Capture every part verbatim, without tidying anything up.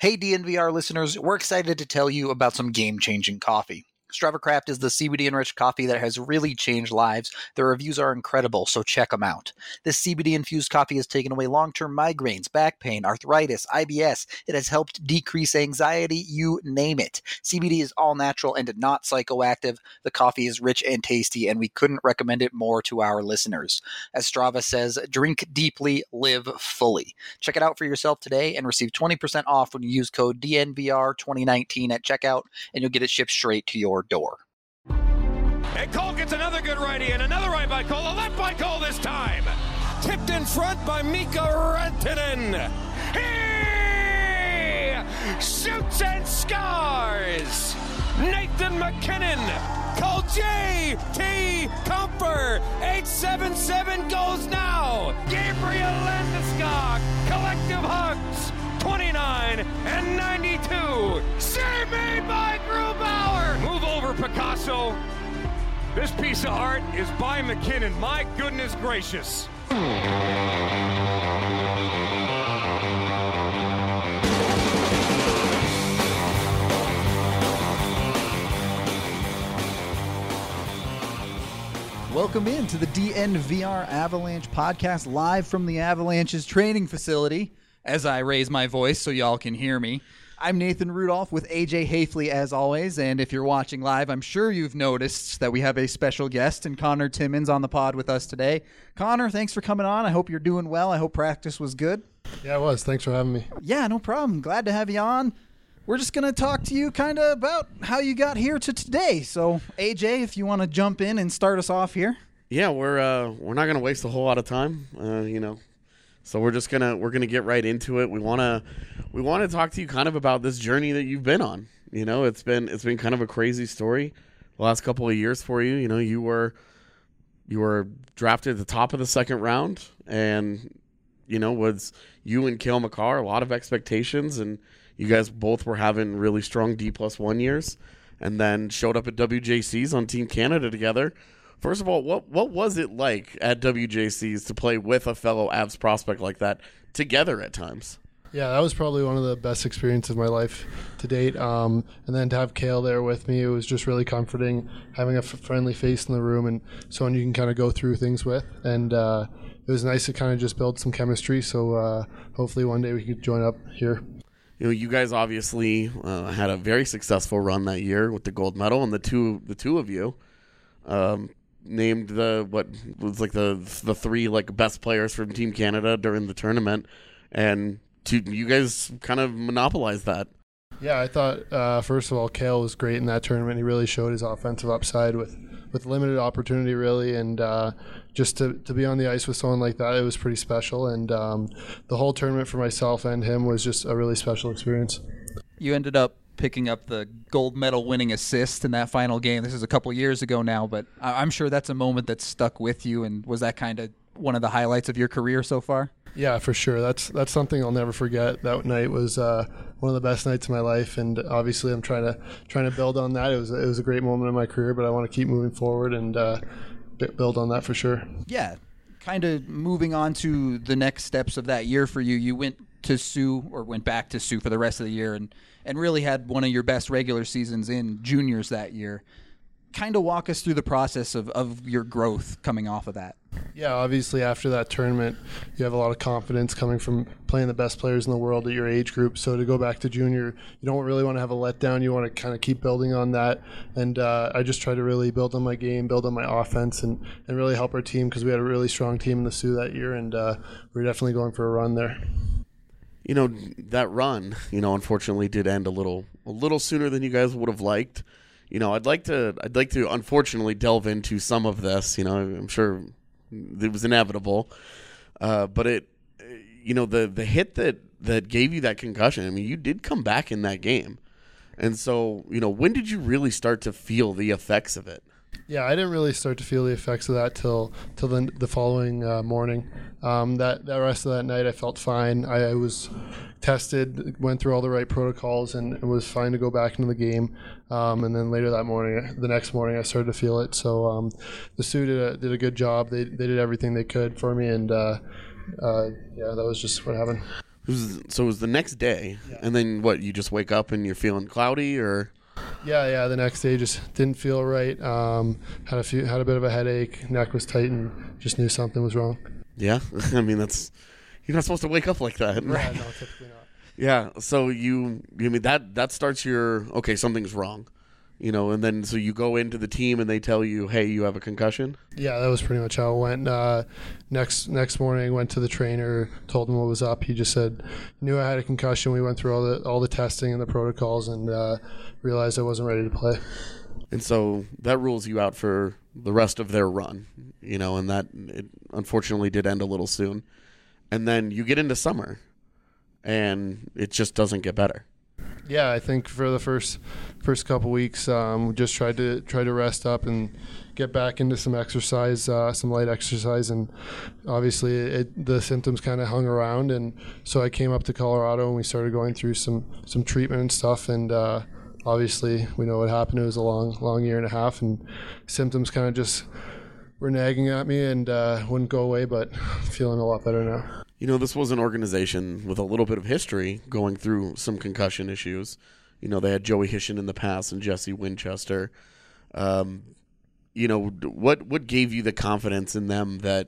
Hey D N V R listeners, we're excited to tell you about some game-changing coffee. StravaCraft is the C B D-enriched coffee that has really changed lives. Their reviews are incredible, so check them out. This C B D-infused coffee has taken away long-term migraines, back pain, arthritis, I B S. It has helped decrease anxiety, you name it. C B D is all-natural and not psychoactive. The coffee is rich and tasty, and we couldn't recommend it more to our listeners. As Strava says, drink deeply, live fully. Check it out for yourself today and receive twenty percent off when you use code D N V R twenty nineteen at checkout, and you'll get it shipped straight to your door. And Cole gets another good righty, and another right by Cole, a left by Cole this time. Tipped in front by Mika Rantanen. He shoots and scores. Nathan McKinnon. Cole J T Comfer. eight seven seven goes now. Gabriel Landeskog. Collective hugs. twenty-nine and ninety-two. Save made by Grubauer. Move over, Picasso. This piece of art is by McKinnon. My goodness gracious. Welcome in to the D N V R Avalanche podcast, live from the Avalanche's training facility, as I raise my voice so y'all can hear me. I'm Nathan Rudolph with A J Hafley, as always, and if you're watching live, I'm sure you've noticed that we have a special guest, and Connor Timmins on the pod with us today. Connor, thanks for coming on. I hope you're doing well. I hope practice was good. Yeah, it was. Thanks for having me. Yeah, no problem. Glad to have you on. We're just going to talk to you kind of about how you got here to today. So, A J, if you want to jump in and start us off here. Yeah, we're uh, we're not going to waste a whole lot of time, uh, you know. So we're just gonna we're gonna get right into it. We wanna we wanna talk to you kind of about this journey that you've been on. You know, it's been it's been kind of a crazy story the last couple of years for you. You know, you were you were drafted at the top of the second round, and you know was you and Cale Makar, a lot of expectations, and you guys both were having really strong D plus one years, and then showed up at W J C's on Team Canada together. First of all, what what was it like at W J C's to play with a fellow Avs prospect like that together at times? Yeah, that was probably one of the best experiences of my life to date. Um, and then to have Cale there with me, it was just really comforting, having a f- friendly face in the room and someone you can kind of go through things with. And uh, it was nice to kind of just build some chemistry. So uh, hopefully one day we could join up here. You know, you guys obviously uh, had a very successful run that year with the gold medal, and the two the two of you. Um, named the what was like the the three like best players from Team Canada during the tournament, and to, you guys kind of monopolized that. Yeah, I thought uh, first of all, Cale was great in that tournament. He really showed his offensive upside with, with limited opportunity, really, and uh, just to to be on the ice with someone like that, it was pretty special. And um, the whole tournament for myself and him was just a really special experience. You ended up picking up the gold medal winning assist in that final game. This is a couple years ago now, but I'm sure that's a moment that stuck with you. And was that kind of one of the highlights of your career so far? Yeah, for sure. That's that's something I'll never forget. That night was uh, one of the best nights of my life, and obviously I'm trying to trying to build on that. It was it was a great moment in my career, but I want to keep moving forward and uh, build on that for sure. Yeah, kind of moving on to the next steps of that year for you. You went to Sioux, or went back to Sioux for the rest of the year, and and really had one of your best regular seasons in juniors that year. Kind of walk us through the process of, of your growth coming off of that. Yeah, obviously after that tournament, you have a lot of confidence coming from playing the best players in the world at your age group. So to go back to junior, you don't really want to have a letdown. You want to kind of keep building on that. And uh, I just try to really build on my game, build on my offense, and, and really help our team, because we had a really strong team in the Sioux that year, and uh, we were definitely going for a run there. You know, that run, you know, unfortunately did end a little a little sooner than you guys would have liked. You know, I'd like to I'd like to unfortunately delve into some of this. You know, I'm sure it was inevitable, uh, but it, you know, the the hit that that gave you that concussion. I mean, you did come back in that game, and so you know, when did you really start to feel the effects of it? Yeah, I didn't really start to feel the effects of that till till the, the following uh, morning. Um, that the rest of that night, I felt fine. I, I was tested, went through all the right protocols, and it was fine to go back into the game. Um, and then later that morning, the next morning, I started to feel it. So um, the Sioux did a, did a good job. They they did everything they could for me, and uh, uh, yeah, that was just what happened. It was, so it was the next day, Yeah. and then what? You just wake up and you're feeling cloudy, or Yeah, yeah. The next day just didn't feel right. Um, had a few, had a bit of a headache. Neck was tight, and just knew something was wrong. yeah. I mean, that's you're not supposed to wake up like that. Yeah, no, typically not. Yeah. So you, I mean that that starts your okay. Something's wrong, you know, and then so you go into the team and they tell you, hey, you have a concussion. Yeah, that was pretty much how it went. Uh, next next morning, went to the trainer, told him what was up. He just said, knew I had a concussion. We went through all the all the testing and the protocols, and uh, realized I wasn't ready to play. And so that rules you out for the rest of their run, you know, and that it unfortunately did end a little soon. And then you get into summer, and it just doesn't get better. Yeah, I think for the first first couple weeks, um, we just tried to try to rest up and get back into some exercise, uh, some light exercise, and obviously it, the symptoms kind of hung around, and so I came up to Colorado and we started going through some some treatment and stuff, and uh, obviously we know what happened. It was a long long year and a half, and symptoms kind of just were nagging at me and uh, wouldn't go away, but feeling a lot better now. You know, this was an organization with a little bit of history going through some concussion issues. You know, they had Joey Hishin in the past and Jesse Winchester. Um, you know, what what gave you the confidence in them that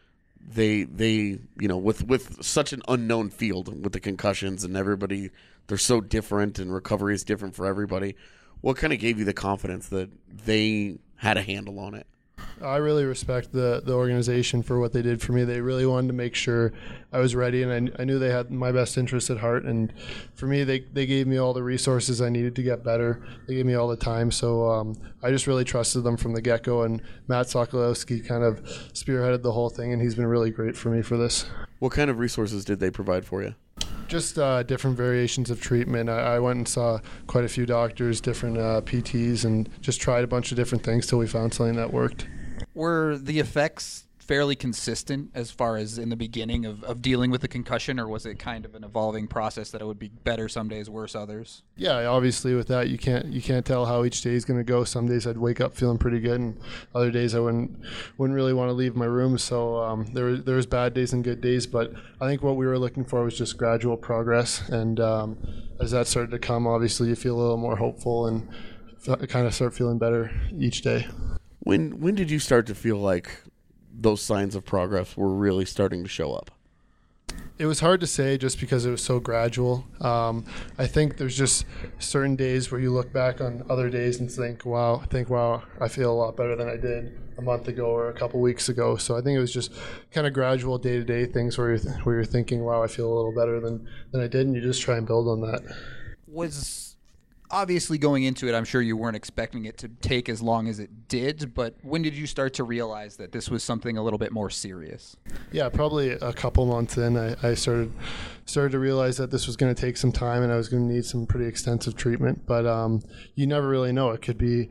they they you know with with such an unknown field with the concussions and everybody, they're so different and recovery is different for everybody. What kind of gave you the confidence that they had a handle on it? I really respect the, the organization for what they did for me. They really wanted to make sure I was ready, and I, I knew they had my best interests at heart. And for me, they, they gave me all the resources I needed to get better. They gave me all the time. So um, I just really trusted them from the get-go. And Matt Sokolowski kind of spearheaded the whole thing, and he's been really great for me for this. What kind of resources did they provide for you? Just uh, different variations of treatment. I, I went and saw quite a few doctors, different uh, P Ts, and just tried a bunch of different things till we found something that worked. Were the effects fairly consistent as far as in the beginning of, of dealing with the concussion, or was it kind of an evolving process that it would be better some days, worse others? Yeah, obviously with that you can't you can't tell how each day is going to go. Some days I'd wake up feeling pretty good, and other days I wouldn't wouldn't really want to leave my room. So um, there was there was bad days and good days, but I think what we were looking for was just gradual progress. And um, as that started to come, obviously you feel a little more hopeful and f- kind of start feeling better each day. When when did you start to feel like those signs of progress were really starting to show up? It was hard to say just because it was so gradual. Um, I think there's just certain days where you look back on other days and think, wow, think, wow, I feel a lot better than I did a month ago or a couple weeks ago. So I think it was just kind of gradual day-to-day things where you're, th- where you're thinking, wow, I feel a little better than, than I did, and you just try and build on that. Was obviously going into it, I'm sure you weren't expecting it to take as long as it did, but when did you start to realize that this was something a little bit more serious? Yeah, probably a couple months in, I, I started started to realize that this was going to take some time and I was going to need some pretty extensive treatment. But um, you never really know. It could be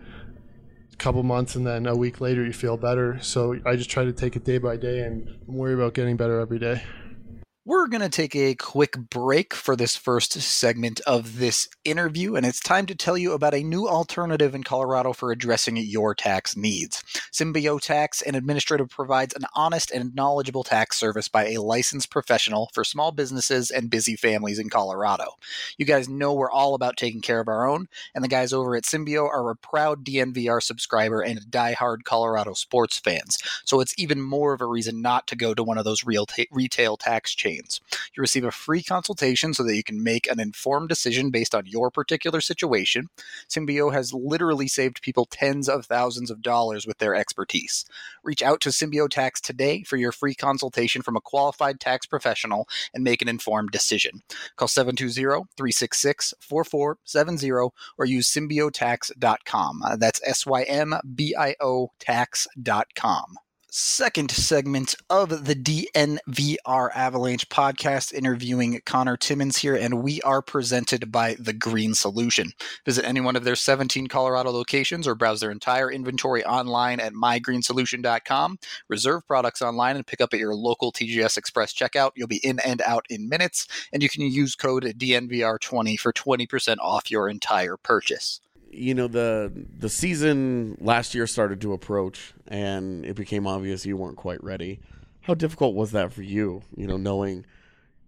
a couple months and then a week later you feel better. So I just try to take it day by day and worry about getting better every day. We're going to take a quick break for this first segment of this interview, and it's time to tell you about a new alternative in Colorado for addressing your tax needs. Symbio Tax and Administrative provides an honest and knowledgeable tax service by a licensed professional for small businesses and busy families in Colorado. You guys know we're all about taking care of our own, and the guys over at Symbio are a proud D N V R subscriber and diehard Colorado sports fans, so it's even more of a reason not to go to one of those real ta- retail tax chains. You receive a free consultation so that you can make an informed decision based on your particular situation. Symbio has literally saved people tens of thousands of dollars with their expertise. Reach out to Symbio Tax today for your free consultation from a qualified tax professional and make an informed decision. Call seven two zero, three six six, four four seven zero or use symbio tax dot com. Uh, that's S Y M B I O tax dot com. Second segment of the D N V R Avalanche podcast, interviewing Connor Timmins here, and we are presented by The Green Solution. Visit any one of their seventeen Colorado locations or browse their entire inventory online at my green solution dot com. Reserve products online and pick up at your local T G S Express checkout. You'll be in and out in minutes, and you can use code D N V R twenty for twenty percent off your entire purchase. You know, the the season last year started to approach, and it became obvious you weren't quite ready. How difficult was that for you, you know, knowing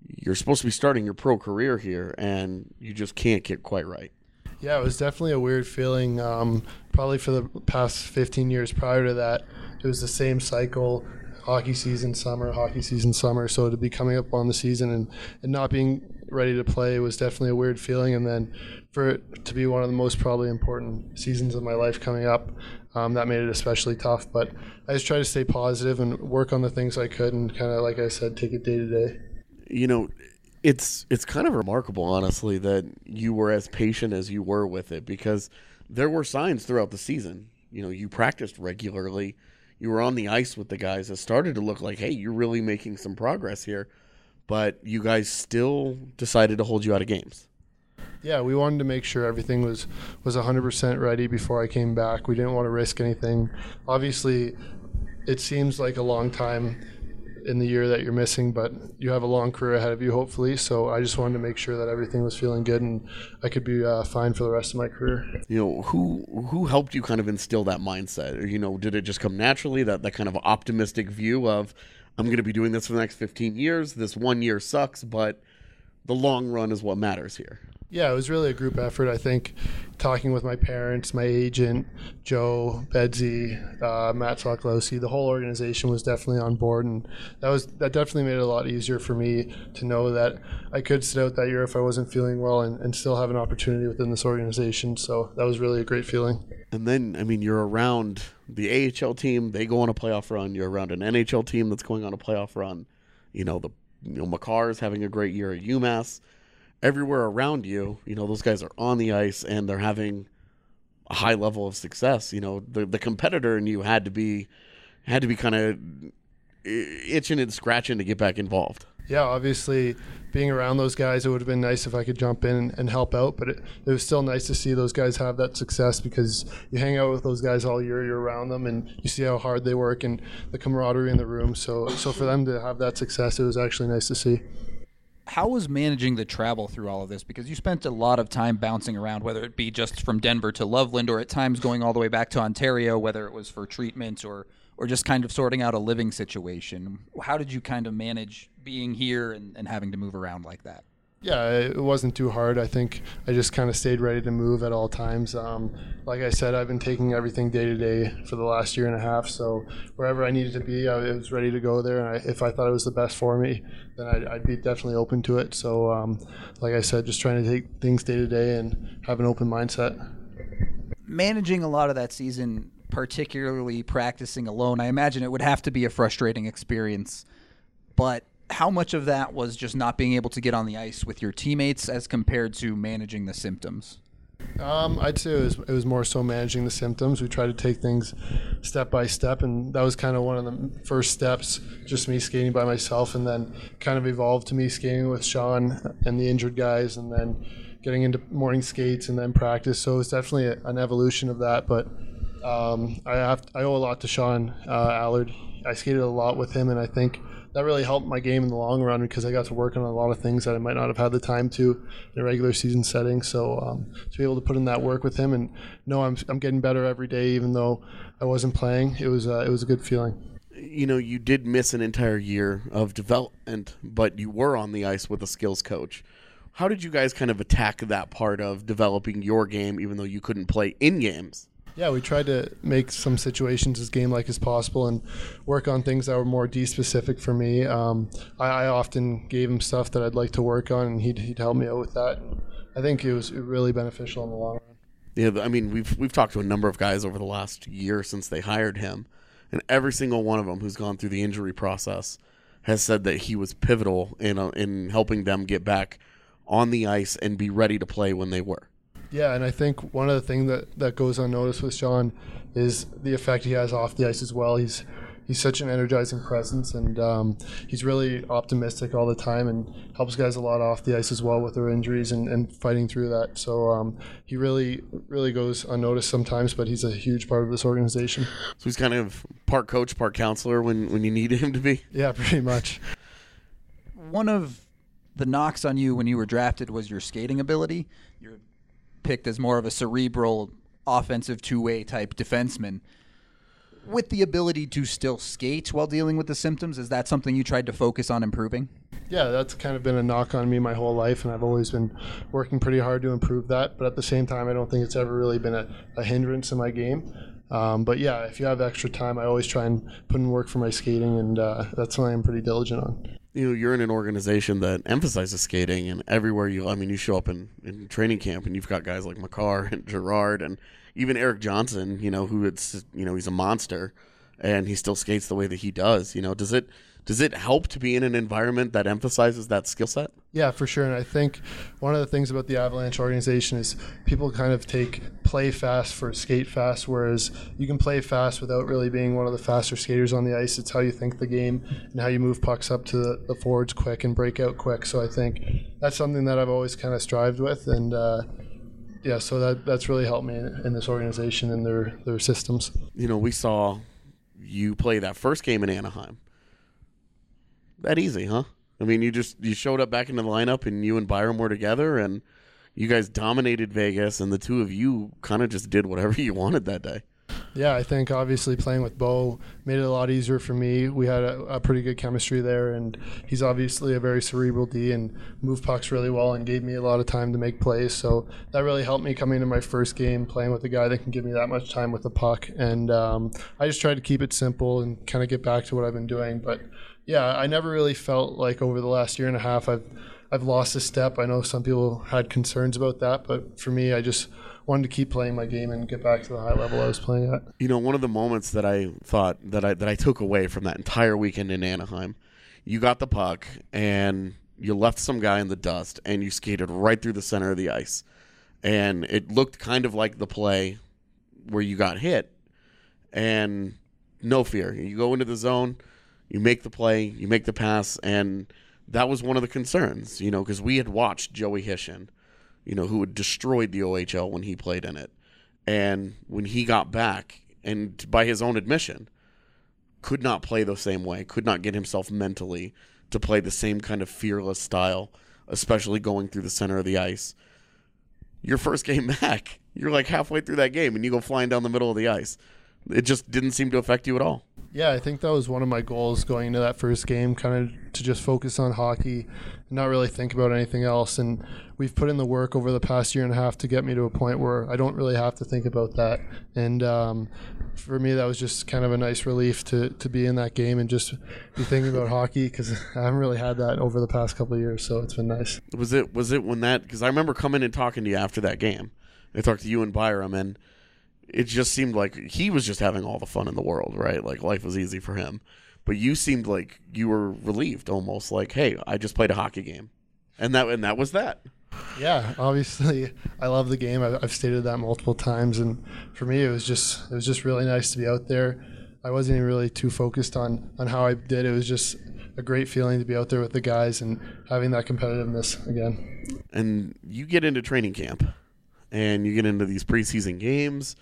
you're supposed to be starting your pro career here, and you just can't get quite right. Yeah, it was definitely a weird feeling. Um, probably for the past fifteen years prior to that, it was the same cycle. Hockey season, summer, hockey season, summer. So to be coming up on the season and, and not being ready to play was definitely a weird feeling. And then for it to be one of the most probably important seasons of my life coming up, um, that made it especially tough. But I just tried to stay positive and work on the things I could and kind of, like I said, take it day to day. You know, it's it's kind of remarkable, honestly, that you were as patient as you were with it, because there were signs throughout the season. You know, you practiced regularly. You were on the ice with the guys. It started to look like, hey, you're really making some progress here. But you guys still decided to hold you out of games. Yeah, we wanted to make sure everything was, was one hundred percent ready before I came back. We didn't want to risk anything. Obviously, it seems like a long time in the year that you're missing, but you have a long career ahead of you, hopefully. So I just wanted to make sure that everything was feeling good and I could be uh, fine for the rest of my career. You know, who who helped you kind of instill that mindset? Or, you know, did it just come naturally, that, that kind of optimistic view of, I'm going to be doing this for the next fifteen years. This one year sucks, but the long run is what matters here. Yeah, it was really a group effort. I think talking with my parents, my agent, Joe, Bedsy, uh, Matt Sokolowski, the whole organization was definitely on board, and that was that definitely made it a lot easier for me to know that I could sit out that year if I wasn't feeling well and, and still have an opportunity within this organization. So that was really a great feeling. And then, I mean, you're around the A H L team. They go on a playoff run. You're around an N H L team that's going on a playoff run. You know, the you know Makar's having a great year at UMass. Everywhere around you, you know, those guys are on the ice and they're having a high level of success. You know, the the competitor in you had to be had to be kind of itching and scratching to get back involved. Yeah, obviously being around those guys, it would have been nice if I could jump in and, and help out, but it, it was still nice to see those guys have that success, because you hang out with those guys all year, you're around them, and you see how hard they work and the camaraderie in the room. So, so for them to have that success, it was actually nice to see. How was managing the travel through all of this? Because you spent a lot of time bouncing around, whether it be just from Denver to Loveland or at times going all the way back to Ontario, whether it was for treatment or, or just kind of sorting out a living situation. How did you kind of manage being here and, and having to move around like that? Yeah, it wasn't too hard. I think I just kind of stayed ready to move at all times. Um, like I said, I've been taking everything day to day for the last year and a half. So wherever I needed to be, I was ready to go there. And I, if I thought it was the best for me, then I'd, I'd be definitely open to it. So um, like I said, just trying to take things day to day and have an open mindset. Managing a lot of that season, particularly practicing alone, I imagine it would have to be a frustrating experience. But how much of that was just not being able to get on the ice with your teammates as compared to managing the symptoms? Um, I'd say it was, it was more so managing the symptoms. We tried to take things step by step, and that was kind of one of the first steps, just me skating by myself, and then kind of evolved to me skating with Sean and the injured guys, and then getting into morning skates and then practice. So it was definitely a, an evolution of that, but um, I have I owe a lot to Sean uh, Allard. I skated a lot with him, and I think that really helped my game in the long run, because I got to work on a lot of things that I might not have had the time to in a regular season setting. So um, to be able to put in that work with him and know I'm I'm getting better every day, even though I wasn't playing, it was uh, it was a good feeling. You know, you did miss an entire year of development, but you were on the ice with a skills coach. How did you guys kind of attack that part of developing your game, even though you couldn't play in games? Yeah, we tried to make some situations as game-like as possible and work on things that were more D-specific for me. Um, I, I often gave him stuff that I'd like to work on, and he'd, he'd help me out with that. I think it was really beneficial in the long run. Yeah, I mean, we've we've talked to a number of guys over the last year since they hired him, and every single one of them who's gone through the injury process has said that he was pivotal in uh, in helping them get back on the ice and be ready to play when they were. Yeah, and I think one of the things that, that goes unnoticed with Sean is the effect he has off the ice as well. He's he's such an energizing presence, and um, he's really optimistic all the time and helps guys a lot off the ice as well with their injuries and, and fighting through that. So um, he really, really goes unnoticed sometimes, but he's a huge part of this organization. So he's kind of part coach, part counselor when, when you need him to be? Yeah, pretty much. One of the knocks on you when you were drafted was your skating ability. You're picked as more of a cerebral, offensive two-way type defenseman. With the ability to still skate while dealing with the symptoms, is that something you tried to focus on improving? Yeah, that's kind of been a knock on me my whole life, and I've always been working pretty hard to improve that. But at the same time, I don't think it's ever really been a, a hindrance in my game. Um, but yeah, if you have extra time, I always try and put in work for my skating, and uh, that's something I'm pretty diligent on. You know, you're in an organization that emphasizes skating, and everywhere you, I mean, you show up in, in training camp, and you've got guys like Makar and Gerard, and even Erik Johnson, you know, who it's, you know, he's a monster, and he still skates the way that he does. You know, does it does it help to be in an environment that emphasizes that skill set? Yeah, for sure. And I think one of the things about the Avalanche organization is people kind of take play fast for skate fast, whereas you can play fast without really being one of the faster skaters on the ice. It's how you think the game and how you move pucks up to the, the forwards quick and break out quick. So I think that's something that I've always kind of strived with. And uh, yeah, so that that's really helped me in, in this organization and their, their systems. You know, we saw you play that first game in Anaheim. That easy, huh? I mean, you just you showed up back into the lineup, and you and Byram were together, and you guys dominated Vegas, and the two of you kind of just did whatever you wanted that day. Yeah, I think obviously playing with Bo made it a lot easier for me. We had a, a pretty good chemistry there, and he's obviously a very cerebral D and moved pucks really well and gave me a lot of time to make plays. So that really helped me coming into my first game, playing with a guy that can give me that much time with the puck. And um, I just tried to keep it simple and kind of get back to what I've been doing. But yeah, I never really felt like over the last year and a half I've I've lost a step. I know some people had concerns about that, but for me, I just wanted to keep playing my game and get back to the high level I was playing at. You know, one of the moments that I thought that I that I took away from that entire weekend in Anaheim, you got the puck and you left some guy in the dust and you skated right through the center of the ice. And it looked kind of like the play where you got hit. And no fear. You go into the zone, you make the play, you make the pass, and that was one of the concerns, you know, because we had watched Joey Hishin, you know, who had destroyed the O H L when he played in it. And when he got back, and by his own admission, could not play the same way, could not get himself mentally to play the same kind of fearless style, especially going through the center of the ice. Your first game back, you're like halfway through that game, and you go flying down the middle of the ice. It just didn't seem to affect you at all. Yeah, I think that was one of my goals going into that first game, kind of to just focus on hockey and not really think about anything else. And we've put in the work over the past year and a half to get me to a point where I don't really have to think about that. And um, for me, that was just kind of a nice relief to, to be in that game and just be thinking about hockey, because I haven't really had that over the past couple of years. So it's been nice. Was it, was it when that, because I remember coming and talking to you after that game. I talked to you and Byram, and it just seemed like he was just having all the fun in the world, right? Like life was easy for him. But you seemed like you were relieved, almost like, hey, I just played a hockey game. And that and that was that. Yeah, obviously I love the game. I've, I've stated that multiple times, and for me it was just it was just really nice to be out there. I wasn't even really too focused on, on how I did. It was just a great feeling to be out there with the guys and having that competitiveness again. And you get into training camp and you get into these preseason games.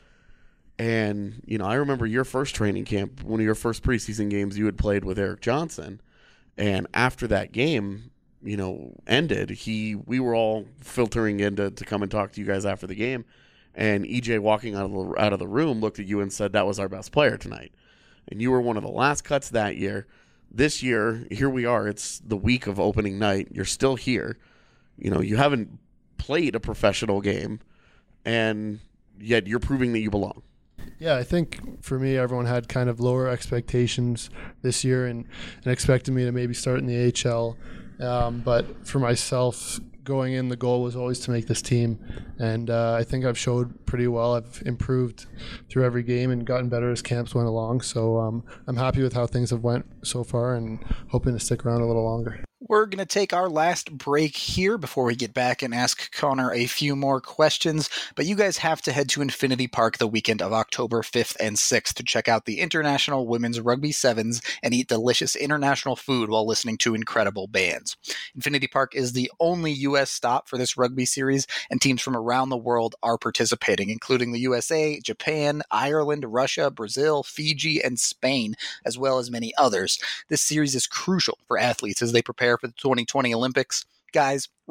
And, you know, I remember your first training camp, one of your first preseason games you had played with Erik Johnson. And after that game, you know, ended, he we were all filtering in to, to come and talk to you guys after the game. And E J, walking out of, the, out of the room, looked at you and said, that was our best player tonight. And you were one of the last cuts that year. This year, here we are. It's the week of opening night. You're still here. You know, you haven't played a professional game, and yet you're proving that you belong. Yeah, I think for me, everyone had kind of lower expectations this year and, and expected me to maybe start in the A H L. Um, but for myself, going in, the goal was always to make this team. And uh, I think I've showed pretty well. I've improved through every game and gotten better as camps went along. So um, I'm happy with how things have went so far and hoping to stick around a little longer. We're going to take our last break here before we get back and ask Connor a few more questions. But you guys have to head to Infinity Park the weekend of October fifth and sixth to check out the International Women's Rugby Sevens and eat delicious international food while listening to incredible bands. Infinity Park is the only U S stop for this rugby series, and teams from around the world are participating, including the U S A, Japan, Ireland, Russia, Brazil, Fiji, and Spain, as well as many others. This series is crucial for athletes as they prepare for the twenty twenty Olympics. Guys,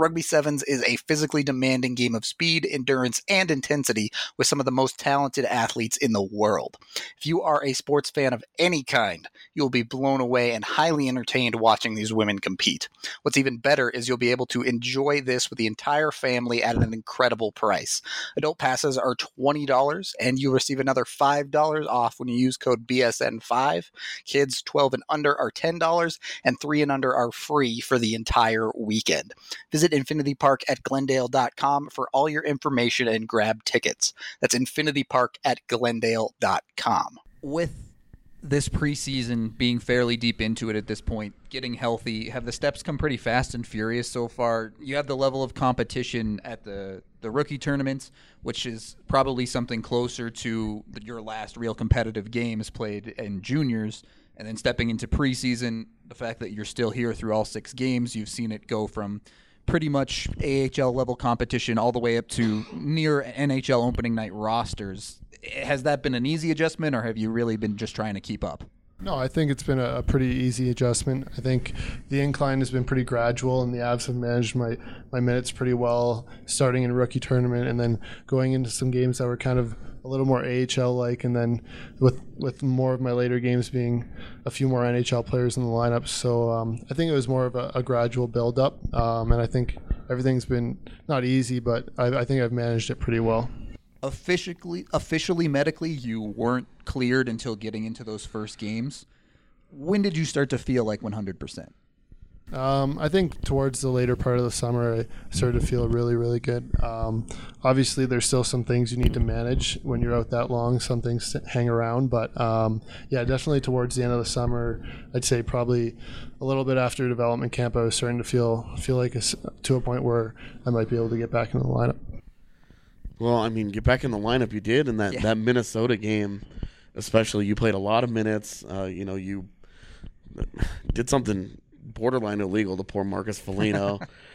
Rugby Sevens is a physically demanding game of speed, endurance, and intensity with some of the most talented athletes in the world. If you are a sports fan of any kind, you'll be blown away and highly entertained watching these women compete. What's even better is you'll be able to enjoy this with the entire family at an incredible price. Adult passes are twenty dollars, and you receive another five dollars off when you use code B S N five. Kids twelve and under are ten dollars, and three and under are free for the entire weekend. Visit Infinity Park at Glendale dot com for all your information and grab tickets. That's Infinity Park at Glendale dot com. With this preseason being fairly deep into it at this point, getting healthy, have the steps come pretty fast and furious so far? You have the level of competition at the, the rookie tournaments, which is probably something closer to your last real competitive games played in juniors. And then stepping into preseason, the fact that you're still here through all six games, you've seen it go from pretty much A H L level competition all the way up to near N H L opening night rosters. Has that been an easy adjustment, or have you really been just trying to keep up? No, I think it's been a, a pretty easy adjustment. I think the incline has been pretty gradual, and the Avs have managed my, my minutes pretty well, starting in rookie tournament and then going into some games that were kind of a little more A H L-like, and then with with more of my later games being a few more N H L players in the lineup. So um, I think it was more of a, a gradual build-up, um, and I think everything's been not easy, but I, I think I've managed it pretty well. Officially, officially, medically, you weren't cleared until getting into those first games. When did you start to feel like one hundred percent? Um, I think towards the later part of the summer, I started to feel really, really good. Um, obviously, there's still some things you need to manage when you're out that long. Some things hang around, but um, yeah, definitely towards the end of the summer, I'd say probably a little bit after development camp, I was starting to feel feel like a, to a point where I might be able to get back into the lineup. Well, I mean, get back in the lineup you did in that, Yeah. that Minnesota game, especially. You played a lot of minutes. Uh, you know, you did something borderline illegal to poor Marcus Foligno.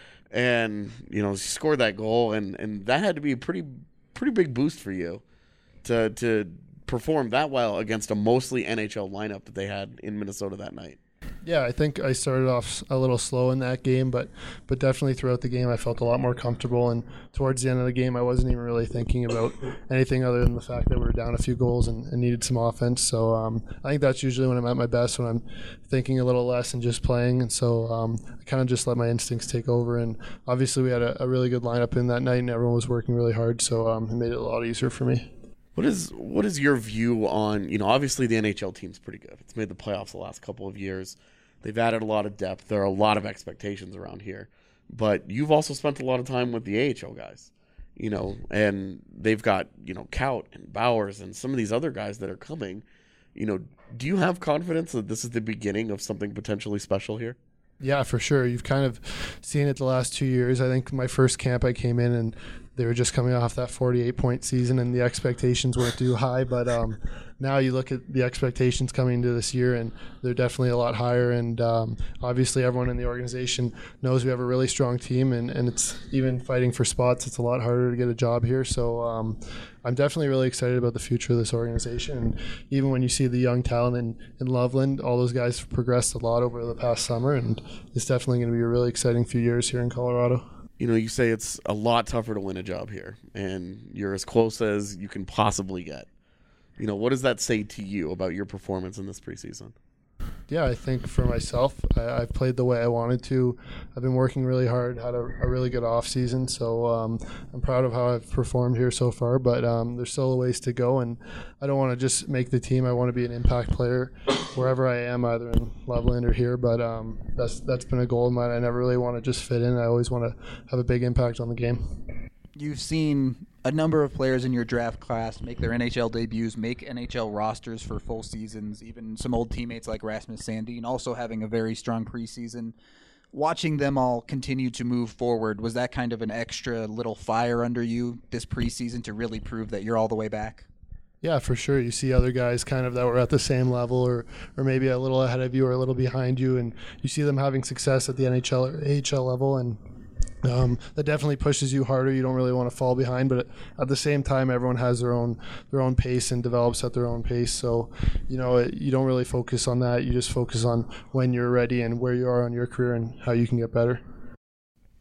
And, you know, she scored that goal, and, and that had to be a pretty pretty big boost for you to to perform that well against a mostly N H L lineup that they had in Minnesota that night. Yeah, I think I started off a little slow in that game, but but definitely throughout the game I felt a lot more comfortable. And towards the end of the game, I wasn't even really thinking about anything other than the fact that we were down a few goals and, and needed some offense. So um, I think that's usually when I'm at my best, when I'm thinking a little less and just playing. And so um, I kind of just let my instincts take over. And obviously we had a, a really good lineup in that night, and everyone was working really hard. So um, it made it a lot easier for me. What is what is your view on, you know, obviously the N H L team's pretty good. It's made the playoffs the last couple of years. They've added a lot of depth. There are a lot of expectations around here. But you've also spent a lot of time with the A H L guys, you know, and they've got, you know, Kaut and Bowers and some of these other guys that are coming. You know, do you have confidence that this is the beginning of something potentially special here? Yeah, for sure. You've kind of seen it the last two years. I think my first camp I came in and they were just coming off that forty-eight point season and the expectations weren't too high. But um, now you look at the expectations coming into this year and they're definitely a lot higher. And um, obviously everyone in the organization knows we have a really strong team, and, and it's even fighting for spots. It's a lot harder to get a job here. So um, I'm definitely really excited about the future of this organization. And even when you see the young talent in, in Loveland, all those guys have progressed a lot over the past summer, and it's definitely going to be a really exciting few years here in Colorado. You know, you say it's a lot tougher to win a job here, and you're as close as you can possibly get. You know, what does that say to you about your performance in this preseason? Yeah, I think for myself, I, I've played the way I wanted to. I've been working really hard, had a, a really good off season, so um, I'm proud of how I've performed here so far. But um, there's still a ways to go, and I don't want to just make the team. I want to be an impact player wherever I am, either in Loveland or here. But um, that's that's been a goal of mine. I never really want to just fit in. I always want to have a big impact on the game. You've seen a number of players in your draft class make their N H L debuts, make N H L rosters for full seasons, even some old teammates like Rasmus Sandin also having a very strong preseason. Watching them all continue to move forward, was that kind of an extra little fire under you this preseason to really prove that you're all the way back? Yeah, for sure. You see other guys kind of that were at the same level or, or maybe a little ahead of you or a little behind you, and you see them having success at the N H L or A H L level, and Um, that definitely pushes you harder. You don't really want to fall behind, but at the same time, everyone has their own their own pace and develops at their own pace. So, you know, it, you don't really focus on that. You just focus on when you're ready and where you are on your career and how you can get better.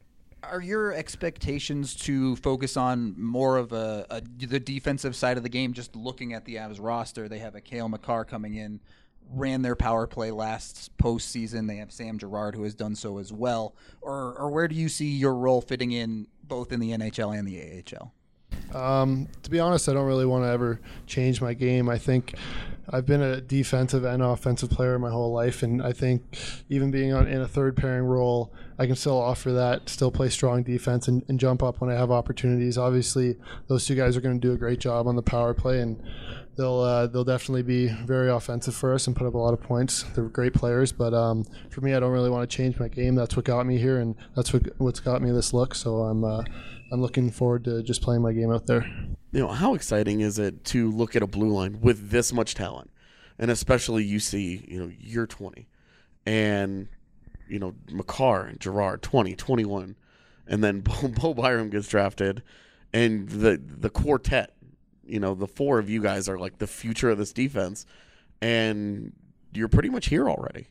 Are your expectations to focus on more of a, a the defensive side of the game? Just looking at the Avs roster, they have a Cale Makar coming in, ran their power play last postseason. They have Sam Girard, who has done so as well. Or, or where do you see your role fitting in both in the N H L and the A H L? Um, to be honest, I don't really want to ever change my game. I think I've been a defensive and offensive player my whole life, and I think even being on, in a third pairing role, I can still offer that, still play strong defense and, and jump up when I have opportunities. Obviously, those two guys are going to do a great job on the power play, and they'll uh, they'll definitely be very offensive for us and put up a lot of points. They're great players, but um, for me, I don't really want to change my game. That's what got me here, and that's what what's got me this look. So I'm uh, I'm looking forward to just playing my game out there. You know, how exciting is it to look at a blue line with this much talent? And especially you see, you know, you're twenty. And, you know, Makar and Girard, twenty, twenty-one. And then Bo, Bo Byram gets drafted. And the the quartet, you know, the four of you guys are like the future of this defense. And you're pretty much here already.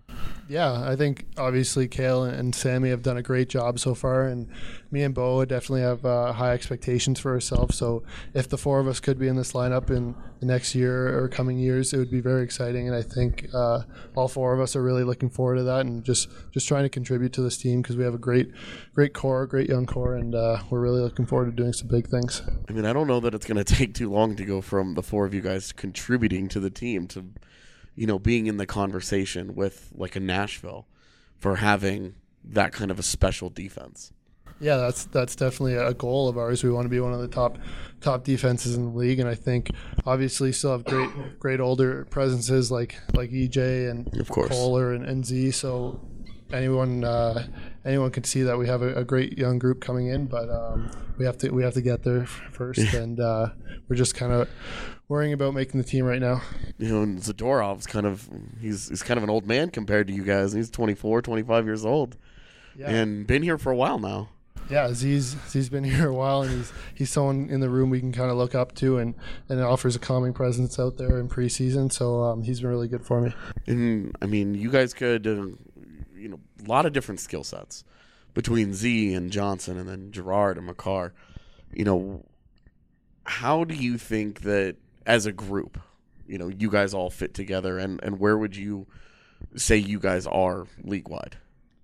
Yeah, I think obviously Cale and Sammy have done a great job so far, and me and Bo definitely have uh, high expectations for ourselves. So if the four of us could be in this lineup in the next year or coming years, it would be very exciting. And I think uh, all four of us are really looking forward to that, and just, just trying to contribute to this team because we have a great, great core, great young core, and uh, we're really looking forward to doing some big things. I mean, I don't know that it's going to take too long to go from the four of you guys contributing to the team to, you know, being in the conversation with like a Nashville for having that kind of a special defense. Yeah, that's that's definitely a goal of ours. We want to be one of the top top defenses in the league, and I think obviously still have great great older presences like like E J and of course Kohler and, and Z. So anyone uh, anyone can see that we have a, a great young group coming in, but um, we have to we have to get there first, and uh, we're just kind of worrying about making the team right now. You know, and Zadorov's kind of he's he's kind of an old man compared to you guys. He's twenty-four, twenty-five years old, yeah. And been here for a while now. Yeah, Z's Z's been here a while, and he's he's someone in the room we can kind of look up to, and, and offers a calming presence out there in preseason. So um, he's been really good for me. And I mean, you guys could, uh, you know, a lot of different skill sets between Z and Johnson, and then Girard and Makar. You know, how do you think that as a group, you know, you guys all fit together, and, and where would you say you guys are league wide?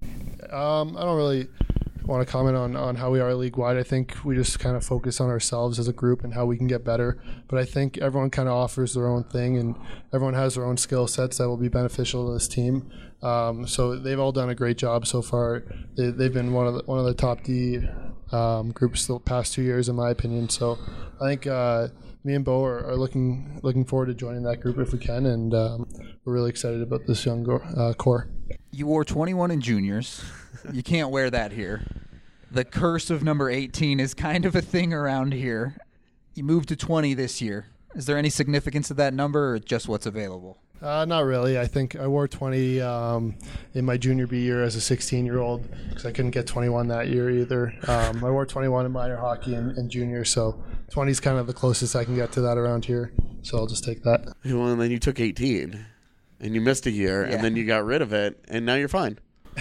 Um, I don't really want to comment on, on how we are league wide. I think we just kind of focus on ourselves as a group and how we can get better. But I think everyone kind of offers their own thing, and everyone has their own skill sets that will be beneficial to this team. Um, so they've all done a great job so far. They, they've been one of the, one of the top D um, groups the past two years, in my opinion. So I think uh, me and Bo are, are looking looking forward to joining that group if we can, and um, we're really excited about this young go- uh, core. You wore twenty-one in juniors. You can't wear that here. The curse of number eighteen is kind of a thing around here. You moved to twenty this year. Is there any significance to that number, or just what's available? Uh, not really. I think I wore twenty um, in my junior B year as a sixteen-year-old because I couldn't get twenty-one that year either. Um, I wore twenty-one in minor hockey and, and junior, so twenty is kind of the closest I can get to that around here. So I'll just take that. Well, and then you took eighteen, and you missed a year, yeah. And then you got rid of it, and now you're fine.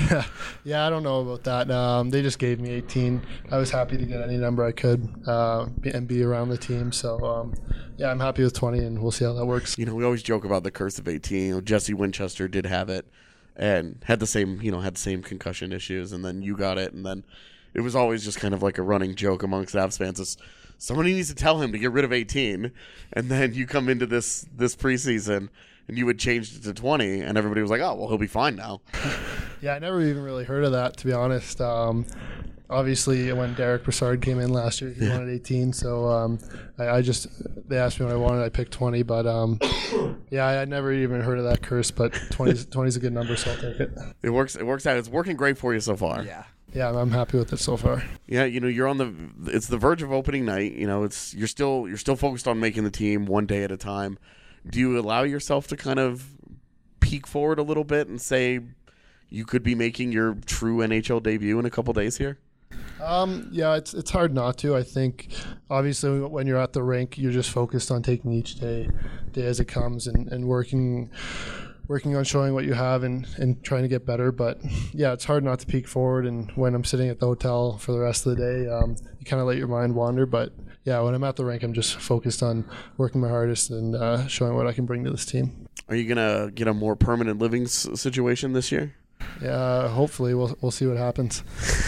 Yeah, I don't know about that. Um, they just gave me eighteen. I was happy to get any number I could uh, and be around the team. So, um, yeah, I'm happy with twenty, and we'll see how that works. You know, we always joke about the curse of eighteen. You know, Jesse Winchester did have it and had the same, you know, had the same concussion issues, and then you got it, and then it was always just kind of like a running joke amongst Avs fans. Is somebody needs to tell him to get rid of eighteen, and then you come into this this preseason and you would change it to twenty, and everybody was like, oh, well, he'll be fine now. Yeah, I never even really heard of that, to be honest. Um, obviously, when Derek Brassard came in last year, he yeah. wanted eighteen. So um, I, I just, they asked me what I wanted. I picked twenty. But um, yeah, I had never even heard of that curse. But twenty is a good number, so I'll take it. It works. It works out. It's working great for you so far. Yeah. Yeah, I'm happy with it so far. Yeah, you know, you're on the. It's the verge of opening night. You know, it's you're still you're still focused on making the team one day at a time. Do you allow yourself to kind of peek forward a little bit and say you could be making your true N H L debut in a couple days here? Um, yeah, it's it's hard not to. I think obviously when you're at the rink, you're just focused on taking each day, day as it comes, and, and working working on showing what you have and, and trying to get better. But yeah, it's hard not to peek forward. And when I'm sitting at the hotel for the rest of the day, um, you kind of let your mind wander. But yeah, when I'm at the rink, I'm just focused on working my hardest and uh, showing what I can bring to this team. Are you gonna get a more permanent living s- situation this year? Yeah, hopefully we'll we'll see what happens.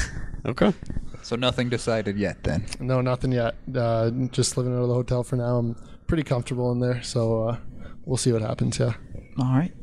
Okay. So nothing decided yet then? No, nothing yet. Uh, just living out of the hotel for now. I'm pretty comfortable in there, so uh, we'll see what happens. Yeah. All right.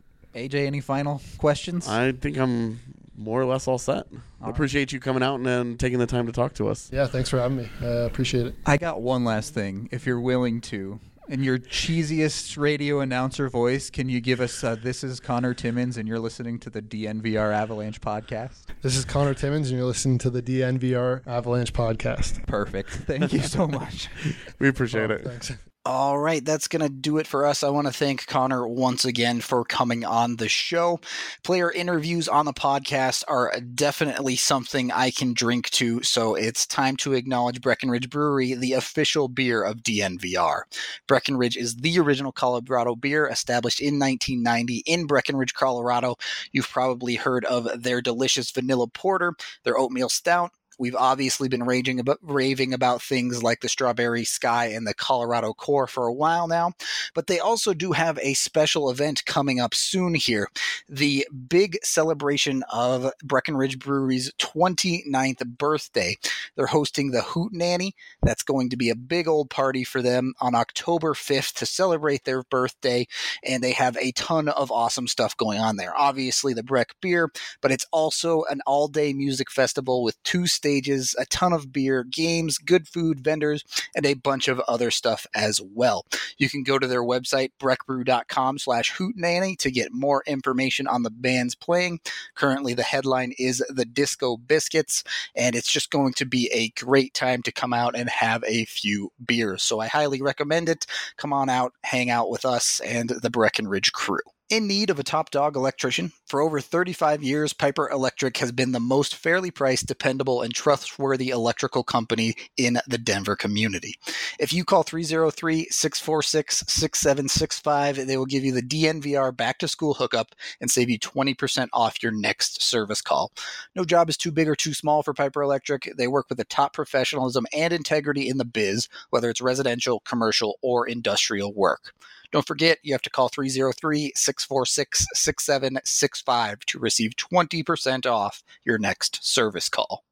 A J, any final questions? I think I'm more or less all set. I appreciate you coming out and, and taking the time to talk to us. Yeah, thanks for having me. I uh, appreciate it. I got one last thing, if you're willing to. In your cheesiest radio announcer voice, can you give us, uh, this is Connor Timmins, and you're listening to the D N V R Avalanche podcast? This is Connor Timmins, and you're listening to the D N V R Avalanche podcast. Perfect. Thank you so much. We appreciate Oh, it. thanks. All right, that's going to do it for us. I want to thank Connor once again for coming on the show. Player interviews on the podcast are definitely something I can drink to, so it's time to acknowledge Breckenridge Brewery, the official beer of D N V R. Breckenridge is the original Colorado beer, established in nineteen ninety in Breckenridge, Colorado. You've probably heard of their delicious vanilla porter, their oatmeal stout. We've obviously been raging about, raving about things like the Strawberry Sky and the Colorado Core for a while now, but they also do have a special event coming up soon here, the big celebration of Breckenridge Brewery's twenty-ninth birthday. They're hosting the Hootenanny. That's going to be a big old party for them on October fifth to celebrate their birthday, and they have a ton of awesome stuff going on there. Obviously the Breck beer, but it's also an all-day music festival with two stages, a ton of beer, games, good food, vendors, and a bunch of other stuff as well. You can go to their website, breckbrew.com slash hootenanny to get more information on the bands playing. Currently, the headline is the Disco Biscuits, and it's just going to be a great time to come out and have a few beers. So I highly recommend it. Come on out, hang out with us and the Breckenridge crew. In need of a top dog electrician? For over thirty-five years, Piper Electric has been the most fairly priced, dependable, and trustworthy electrical company in the Denver community. If you call three oh three, six four six, six seven six five, they will give you the D N V R back-to-school hookup and save you twenty percent off your next service call. No job is too big or too small for Piper Electric. They work with the top professionalism and integrity in the biz, whether it's residential, commercial, or industrial work. Don't forget, you have to call three oh three, six four six, six seven six five to receive twenty percent off your next service call.